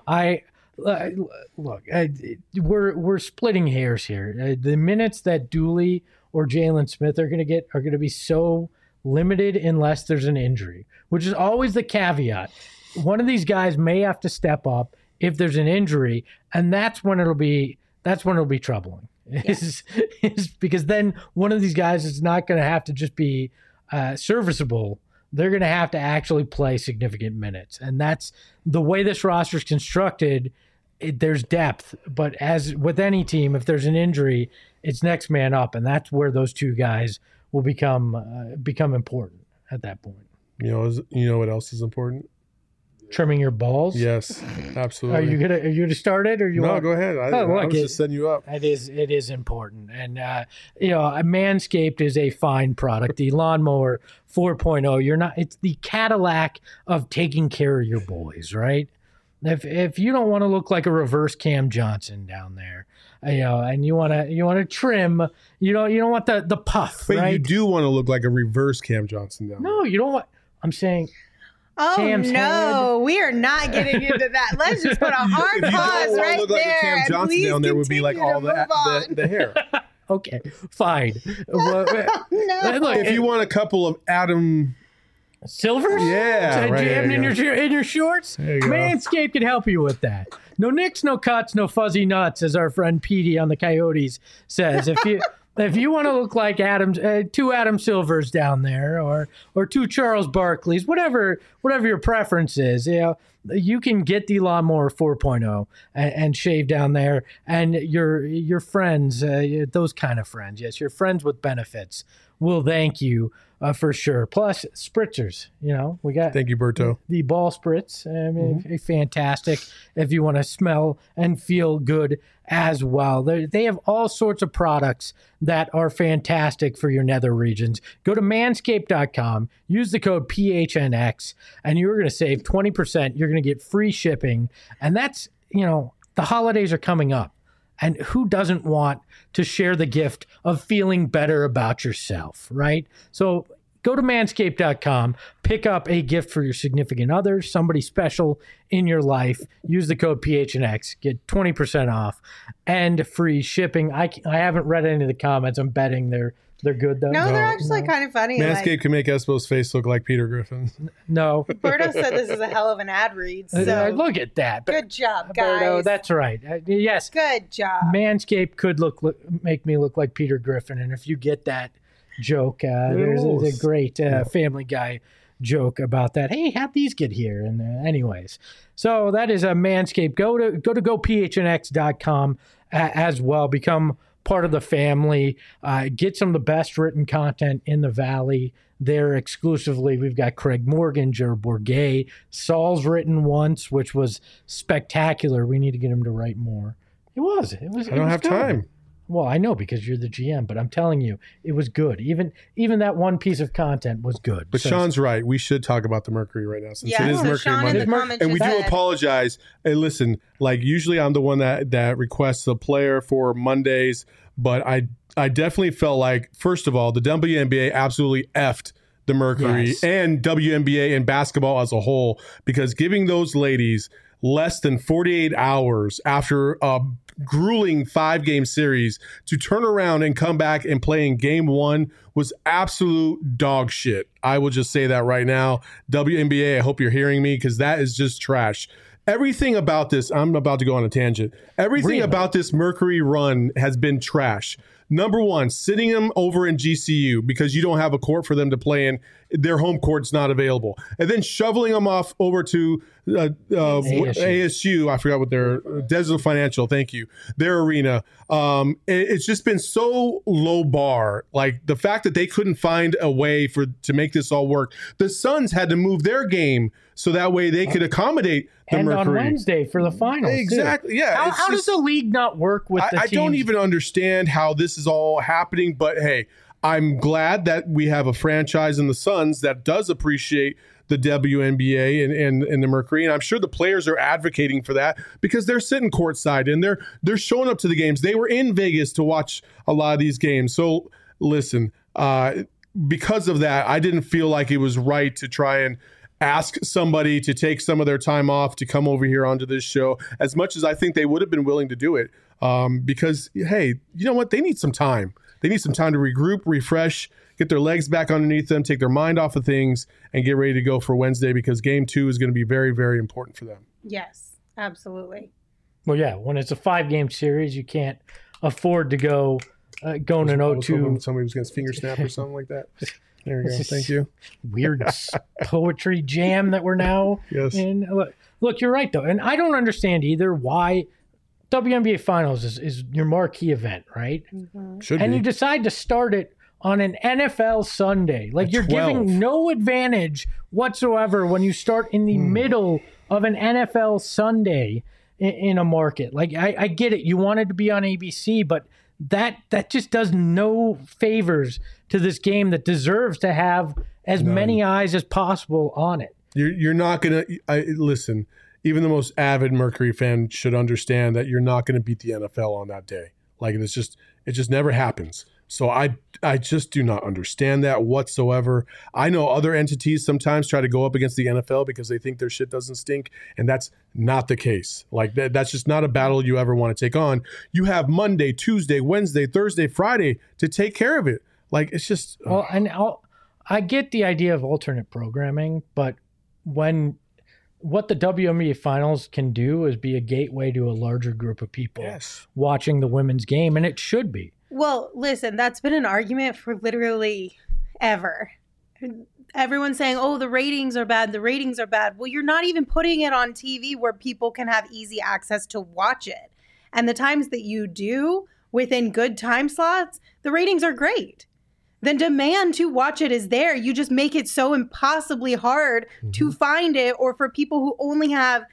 I uh, look. I, we're we're splitting hairs here. Uh, the minutes that Dooley or Jalen Smith are going to get are going to be so limited unless there's an injury, which is always the caveat. One of these guys may have to step up if there's an injury, and that's when it'll be that's when it'll be troubling. Is, is because then one of these guys is not going to have to just be uh, serviceable. They're going to have to actually play significant minutes, and that's the way this roster is constructed. It, there's depth, but as with any team, if there's an injury, it's next man up, and that's where those two guys will become uh, become important at that point. You know, is- you know what else is important? Trimming your balls. Yes, absolutely. Are you gonna are you gonna start it or you No, want? go ahead. I, Oh, I look, was it- just setting you up. It is it is important, and uh, you know, a Manscaped is a fine product. The Lawnmower four point oh. You're not. It's the Cadillac of taking care of your boys, right? If if you don't want to look like a reverse Cam Johnson down there, you know, and you want to you want to trim, you don't you don't want the the puff, But right? you do want to look like a reverse Cam Johnson down there. No, you don't want. I'm saying. Oh Cam's no, we are not getting into that. Let's just put a hard If you pause don't want right to look like there. a Cam and Johnson please down there, would be like continue all to the, move on. the the hair. Okay, fine. Well, No. look, If you want a couple of Adam, Silvers? Yeah, Uh, right, jammed there in you your in your shorts? There you go. Manscaped can help you with that. No nicks, no cuts, no fuzzy nuts, as our friend Petey on the Coyotes says. If you if you want to look like Adam, uh, two Adam Silvers down there, or or two Charles Barkleys, whatever whatever your preference is, you know, you can get the Lawnmower four point oh and, and shave down there, and your your friends, uh, those kind of friends, yes, your friends with benefits will thank you uh, for sure. Plus spritzers, you know, we got thank you, Berto. the ball spritz. I mean, Mm-hmm. fantastic if you want to smell and feel good as well. They they have all sorts of products that are fantastic for your nether regions. Go to manscaped dot com, use the code P H N X, and you're going to save twenty percent. You're going to get free shipping. And that's, you know, the holidays are coming up. And who doesn't want to share the gift of feeling better about yourself, right? So go to manscaped dot com, pick up a gift for your significant other, somebody special in your life. Use the code P H N X, get twenty percent off and free shipping. I, I haven't read any of the comments. I'm betting they're they're good, though. No, they're No, actually no. kind of funny. Manscaped Like, can make Espo's face look like Peter Griffin. No. Berto said this is a hell of an ad read. Uh, So look at that. good job, Berto, guys. that's right. Uh, yes. Good job. Manscaped could look, look make me look like Peter Griffin, and if you get that joke, uh, there's, there's a great uh, Family Guy joke about that. Hey, how'd these get here? And uh, anyways, so that is a Manscaped. Go to go to go P H N X dot com uh, as well. Become part of the family. Uh, get some of the best written content in the Valley there exclusively. We've got Craig Morgan, Jared Bourget, Saul's written once, which was spectacular. We need to get him to write more. It was. It was. I it don't was have good. time. Well, I know because you're the G M, but I'm telling you, it was good. Even even that one piece of content was good. But So- Sean's right. We should talk about the Mercury right now since Yeah, it is so Mercury Sean in Monday. the comments And we just do said- apologize. Hey, listen, like usually I'm the one that that requests a player for Mondays, but I I definitely felt like, first of all, the W N B A absolutely effed the Mercury Yes. and W N B A and basketball as a whole, because giving those ladies less than forty-eight hours after a grueling five-game series to turn around and come back and play in game one was absolute dog shit. I will just say that right now. W N B A, I hope you're hearing me, because that is just trash. Everything about this, I'm about to go on a tangent. Everything Really? about this Mercury run has been trash. Number one, sitting them over in G C U because you don't have a court for them to play in. Their home court's not available. And then shoveling them off over to uh, uh, A S U. A S U. I forgot what their Desert Financial, thank you, their arena. Um, it- it's just been so low bar. Like the fact that they couldn't find a way for to make this all work. The Suns had to move their game so that way they could accommodate the and on Mercury. Wednesday for the finals. too. Exactly. Yeah. How, it's how just- does the league not work with I, the I don't teams? even understand how this is all happening, but hey, I'm glad that we have a franchise in the Suns that does appreciate the W N B A and, and, and the Mercury. And I'm sure the players are advocating for that because they're sitting courtside and they're they're showing up to the games. They were in Vegas to watch a lot of these games. So listen, uh, because of that, I didn't feel like it was right to try and ask somebody to take some of their time off to come over here onto this show, as much as I think they would have been willing to do it. Um, because, hey, you know what? They need some time. They need some time to regroup, refresh, get their legs back underneath them, take their mind off of things, and get ready to go for Wednesday because game two is going to be very, very important for them. Yes, absolutely. Well, yeah, when it's a five-game series, you can't afford to go uh, going an oh two. Somebody was going to finger snap or something like that. There we go. Thank you. Weird poetry jam that we're now yes. in. Look, look, you're right, though. And I don't understand either why W N B A Finals is, is your marquee event, right? Mm-hmm. Should and be. you decide to start it on an N F L Sunday. Like, At you're twelve. giving no advantage whatsoever when you start in the Mm. middle of an N F L Sunday in, in a market. Like, I, I get it. You wanted to be on A B C, but that that just does no favors to this game that deserves to have as None. many eyes as possible on it. You're you're not gonna I, listen. Even the most avid Mercury fan should understand that you're not going to beat the N F L on that day. Like it's just it just never happens. So I I just do not understand that whatsoever. I know other entities sometimes try to go up against the N F L because they think their shit doesn't stink, and that's not the case. Like that, that's just not a battle you ever want to take on. You have Monday, Tuesday, Wednesday, Thursday, Friday to take care of it. Like it's just Well, and I'll, I get the idea of alternate programming, but when what the W N B A Finals can do is be a gateway to a larger group of people yes. watching the women's game, and it should be. Well, listen, that's been an argument for literally ever. Everyone's saying, oh, the ratings are bad, the ratings are bad. Well, you're not even putting it on T V where people can have easy access to watch it. And the times that you do within good time slots, the ratings are great. The demand to watch it is there. You just make it so impossibly hard mm-hmm. to find it, or for people who only have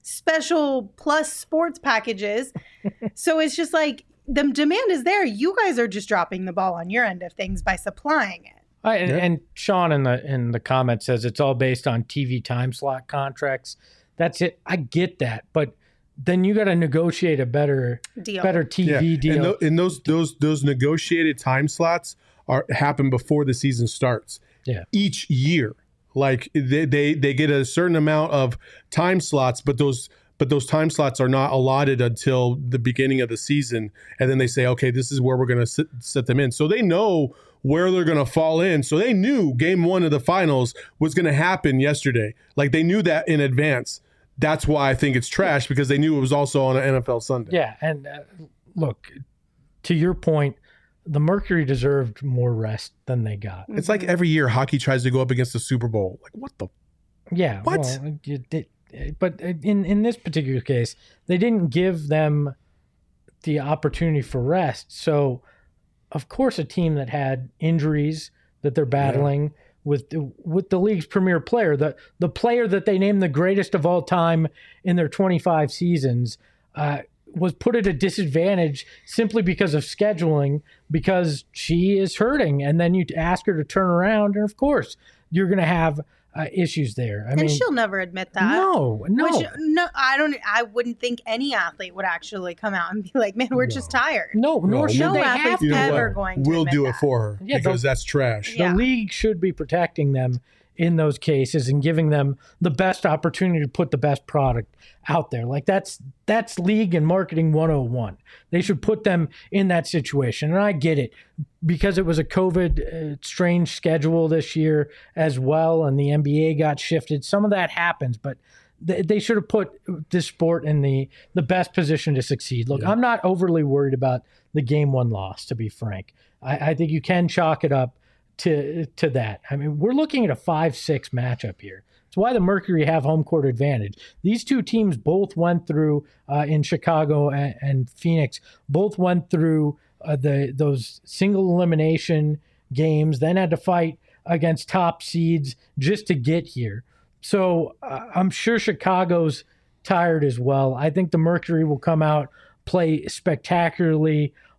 special plus sports packages. So it's just like the demand is there. You guys are just dropping the ball on your end of things by supplying it. I, and, Yeah. and Sean in the in the comment says it's all based on T V time slot contracts. That's it. I get that, but then you got to negotiate a better Deal. better T V Yeah. deal. And, tho- and those those those negotiated time slots are happen before the season starts. Yeah. Each year, like they, they they get a certain amount of time slots, but those but those time slots are not allotted until the beginning of the season, and then they say, okay, this is where we're going to set them in. So they know where they're going to fall in. So they knew game one of the finals was going to happen yesterday. Like they knew that in advance. That's why I think it's trash, because they knew it was also on an N F L Sunday. Yeah, and uh, look, to your point, the Mercury deserved more rest than they got. It's like every year hockey tries to go up against the Super Bowl. Like, what the? Yeah. What? Well, it, it, but in, in this particular case, they didn't give them the opportunity for rest. So, of course, a team that had injuries that they're battling yeah. with, the, with the league's premier player, the, the player that they named the greatest of all time in their twenty-five seasons, uh, was put at a disadvantage simply because of scheduling, because she is hurting. And then you ask her to turn around, and of course, you're going to have uh, issues there. I and mean, she'll never admit that. No, no. Which, no, I don't. I wouldn't think any athlete would actually come out and be like, "Man, we're No. just tired." No, nor No. should No they athlete's have You know to. ever what? going to We'll admit do it that. for her Yeah, because the- that's trash. Yeah. The league should be protecting them in those cases and giving them the best opportunity to put the best product out there. Like that's that's league and marketing one oh one. They should put them in that situation. And I get it, because it was a COVID uh, strange schedule this year as well, and the N B A got shifted. Some of that happens, but th- they should have put this sport in the, the best position to succeed. Look, Yeah. I'm not overly worried about the game one loss, to be frank. I, I think you can chalk it up to to that. I mean, we're looking at a five six matchup here. It's why the Mercury have home court advantage. These two teams both went through uh, in Chicago and, and Phoenix, both went through uh, the those single elimination games, then had to fight against top seeds just to get here. So uh, I'm sure Chicago's tired as well. I think the Mercury will come out, play spectacularly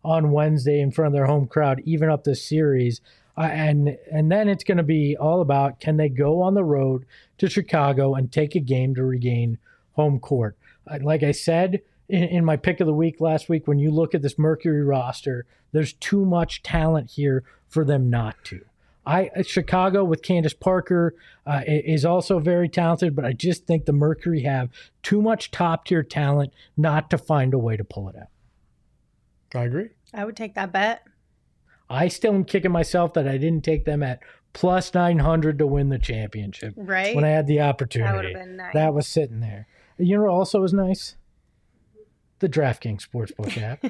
on Wednesday in front of their home crowd, even up this series. Uh, and and then it's going to be all about, can they go on the road to Chicago and take a game to regain home court? Uh, like I said in, in my pick of the week last week, when you look at this Mercury roster, there's too much talent here for them not to. I Chicago with Candace Parker uh, is also very talented, but I just think the Mercury have too much top-tier talent not to find a way to pull it out. I agree. I would take that bet. I still am kicking myself that I didn't take them at plus nine hundred to win the championship. Right. When I had the opportunity. That would have been nice. That was sitting there. You know what also was nice? The DraftKings Sportsbook app.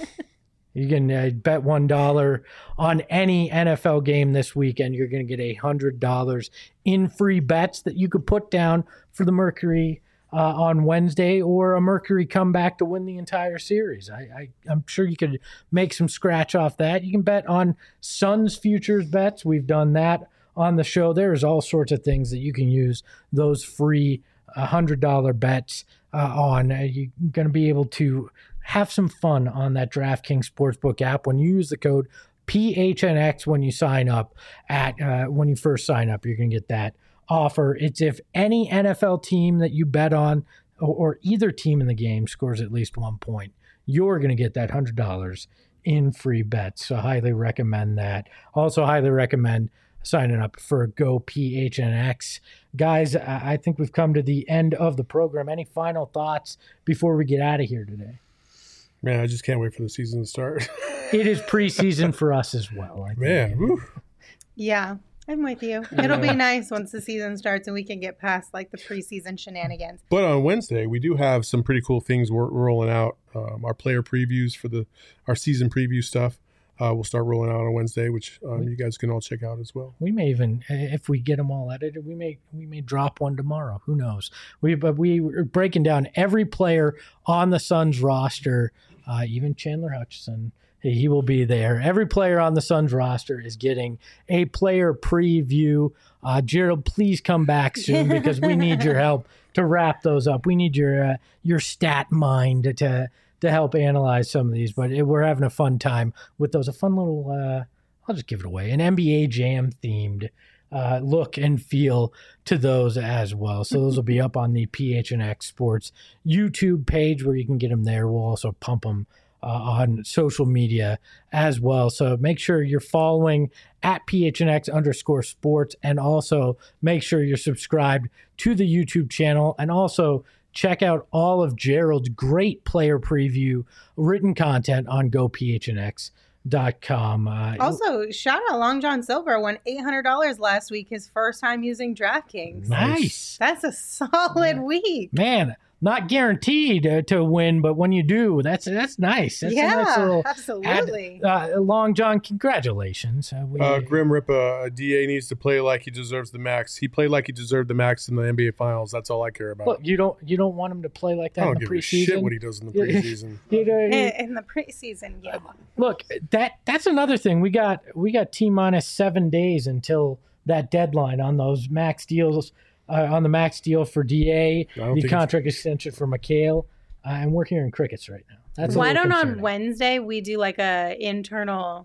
You can uh, bet one dollar on any N F L game this weekend. You're going to get one hundred dollars in free bets that you could put down for the Mercury uh, on Wednesday, or a Mercury comeback to win the entire series. I, I, I'm sure you could make some scratch off that. You can bet on Suns futures bets. We've done that on the show. There's all sorts of things that you can use those free one hundred dollars bets uh, on. Uh, you're going to be able to have some fun on that DraftKings Sportsbook app when you use the code P H N X when you sign up at uh, when you first sign up. You're going to get that offer. It's if any N F L team that you bet on, or, or either team in the game scores at least one point, you're going to get that one hundred dollars in free bets. So highly recommend that. Also highly recommend signing up for Go P H N X. Guys, I think we've come to the end of the program. Any final thoughts before we get out of here today? Man, I just can't wait for the season to start. It is preseason for us as well. I think. Man, woo. Yeah, I'm with you. It'll be nice once the season starts and we can get past like the preseason shenanigans. But on Wednesday, we do have some pretty cool things we're rolling out. Um, our player previews for the our season preview stuff uh, will start rolling out on Wednesday, which um, you guys can all check out as well. We may even, if we get them all edited, we may we may drop one tomorrow. Who knows? We but we are breaking down every player on the Suns roster, uh, even Chandler Hutchison. He will be there. Every player on the Suns roster is getting a player preview. Uh, Gerald, please come back soon because we need your help to wrap those up. We need your uh, your stat mind to to help analyze some of these. But it, we're having a fun time with those. A fun little, uh, I'll just give it away, an N B A Jam themed uh, look and feel to those as well. So those will be up on the P H N X Sports YouTube page where you can get them there. We'll also pump them Uh, on social media as well. So make sure you're following at P H N X underscore sports, and also make sure you're subscribed to the YouTube channel, and also check out all of Gerald's great player preview written content on go P H N X dot com. Uh, Also, shout out Long John Silver won eight hundred dollars last week, his first time using DraftKings. Nice. That's a solid yeah. week. Man, not guaranteed uh, to win, but when you do, that's that's nice. That's yeah, a nice little absolutely. Ad, uh, Long John, congratulations. Uh, we, uh, Grim Rippa, uh, D A needs to play like he deserves the max. He played like he deserved the max in the N B A Finals. That's all I care about. Look, you don't you don't want him to play like that I don't in the give a preseason. shit what he does in the preseason. you know, in, in the preseason, yeah. Look, that that's another thing. We got we got T minus seven days until that deadline on those max deals. Uh, on the max deal for D A, the contract extension for McHale, uh, and we're hearing crickets right now. That's Why don't concerning. on Wednesday we do like a internal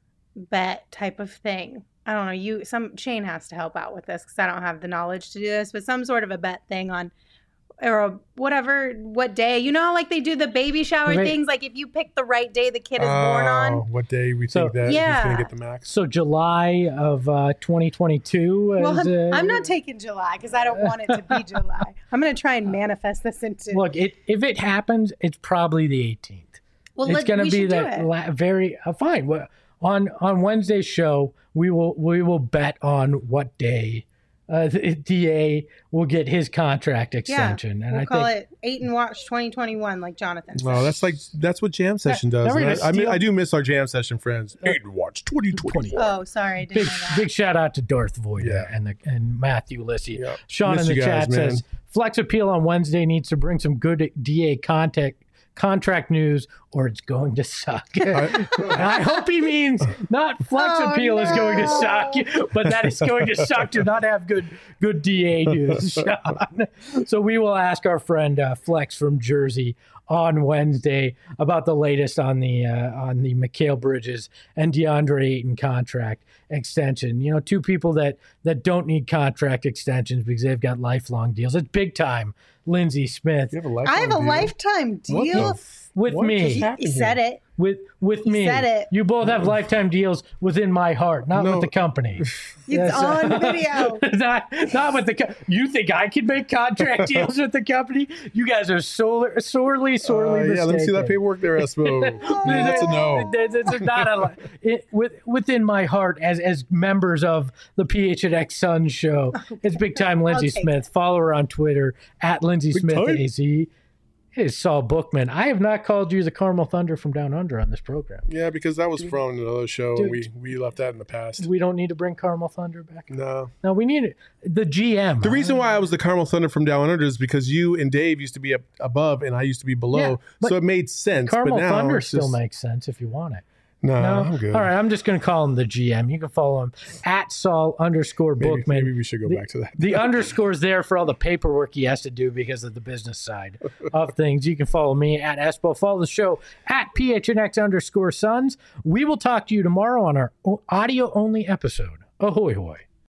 bet type of thing? I don't know. You some Shane has to help out with this because I don't have the knowledge to do this, but some sort of a bet thing on or a, whatever what day. You know how like they do the baby shower Right. things? Like if you pick the right day the kid is Oh, born on. what day we So- think that Yeah. he's going to get the max? So July of uh, twenty twenty-two. Well, is, I'm, uh, I'm not taking July because I don't want it to be July. I'm going to try and manifest this into. Look, it, if it happens, it's probably the eighteenth. well, It's let, going to we be should do that it. la- very uh, fine. Well, on on Wednesday's show, we will we will bet on what day uh, the D A will get his contract extension, and we'll I call think it Eight and Watch twenty twenty-one, like Jonathan said. No, that's like that's what Jam Session does. now we're And gonna I, I, mi- steal- I do miss our Jam Session friends. Eight and Watch twenty twenty. Oh, sorry, I didn't big know that. big shout out to Darth Voida Yeah. and the and Matthew Lissy. Yep. Sean Miss in the you guys, chat man. says Flex Appeal on Wednesday needs to bring some good D A content contract news or it's going to suck. I hope he means not flex Oh, appeal is going to no. suck, but that it's going to suck to not have good good D A news, Sean. So we will ask our friend uh, Flex from Jersey on Wednesday about the latest on the uh, on the Mikal Bridges and DeAndre Ayton contract extension. You know, two people that that don't need contract extensions because they've got lifelong deals. It's big time. Lindsey Smith You have a lifetime I have a deal? lifetime What the deal. f- with what me. just He, happened he here? said it. with with He me. said it. You both have lifetime deals within my heart, not No. with the company. It's Yes. on video. not, not with the. Co- you think I can make contract deals with the company? You guys are so, sorely, sorely Uh, mistaken. yeah, let me see that paperwork there, Espo. Yeah, that's a no. There's- there's not a li- it, with, within my heart as as members of the P H N X Suns show. It's big time Lindsey take Smith. Follow her on Twitter at Lindsey Big Smith time. A Z. It is Saul Bookman. I have not called you the Carmel Thunder from Down Under on this program. Yeah, because that was from another show, Dude. and we, we left that in the past. We don't need to bring Carmel Thunder back. No. No, we need it. The G M. The reason why I was the Carmel Thunder from Down Under is because you and Dave used to be up above, and I used to be below, Yeah, but so it made sense. Carmel but now Thunder it's still just, makes sense if you want it. No, No, I'm good. all right. I'm just going to call him the G M. You can follow him at Saul underscore Maybe, Bookman. maybe we should go The- back to that. The underscore's there for all the paperwork he has to do because of the business side of things. You can follow me at Espo. Follow the show at P H N X underscore Suns. We will talk to you tomorrow on our audio only episode. Ahoy hoy.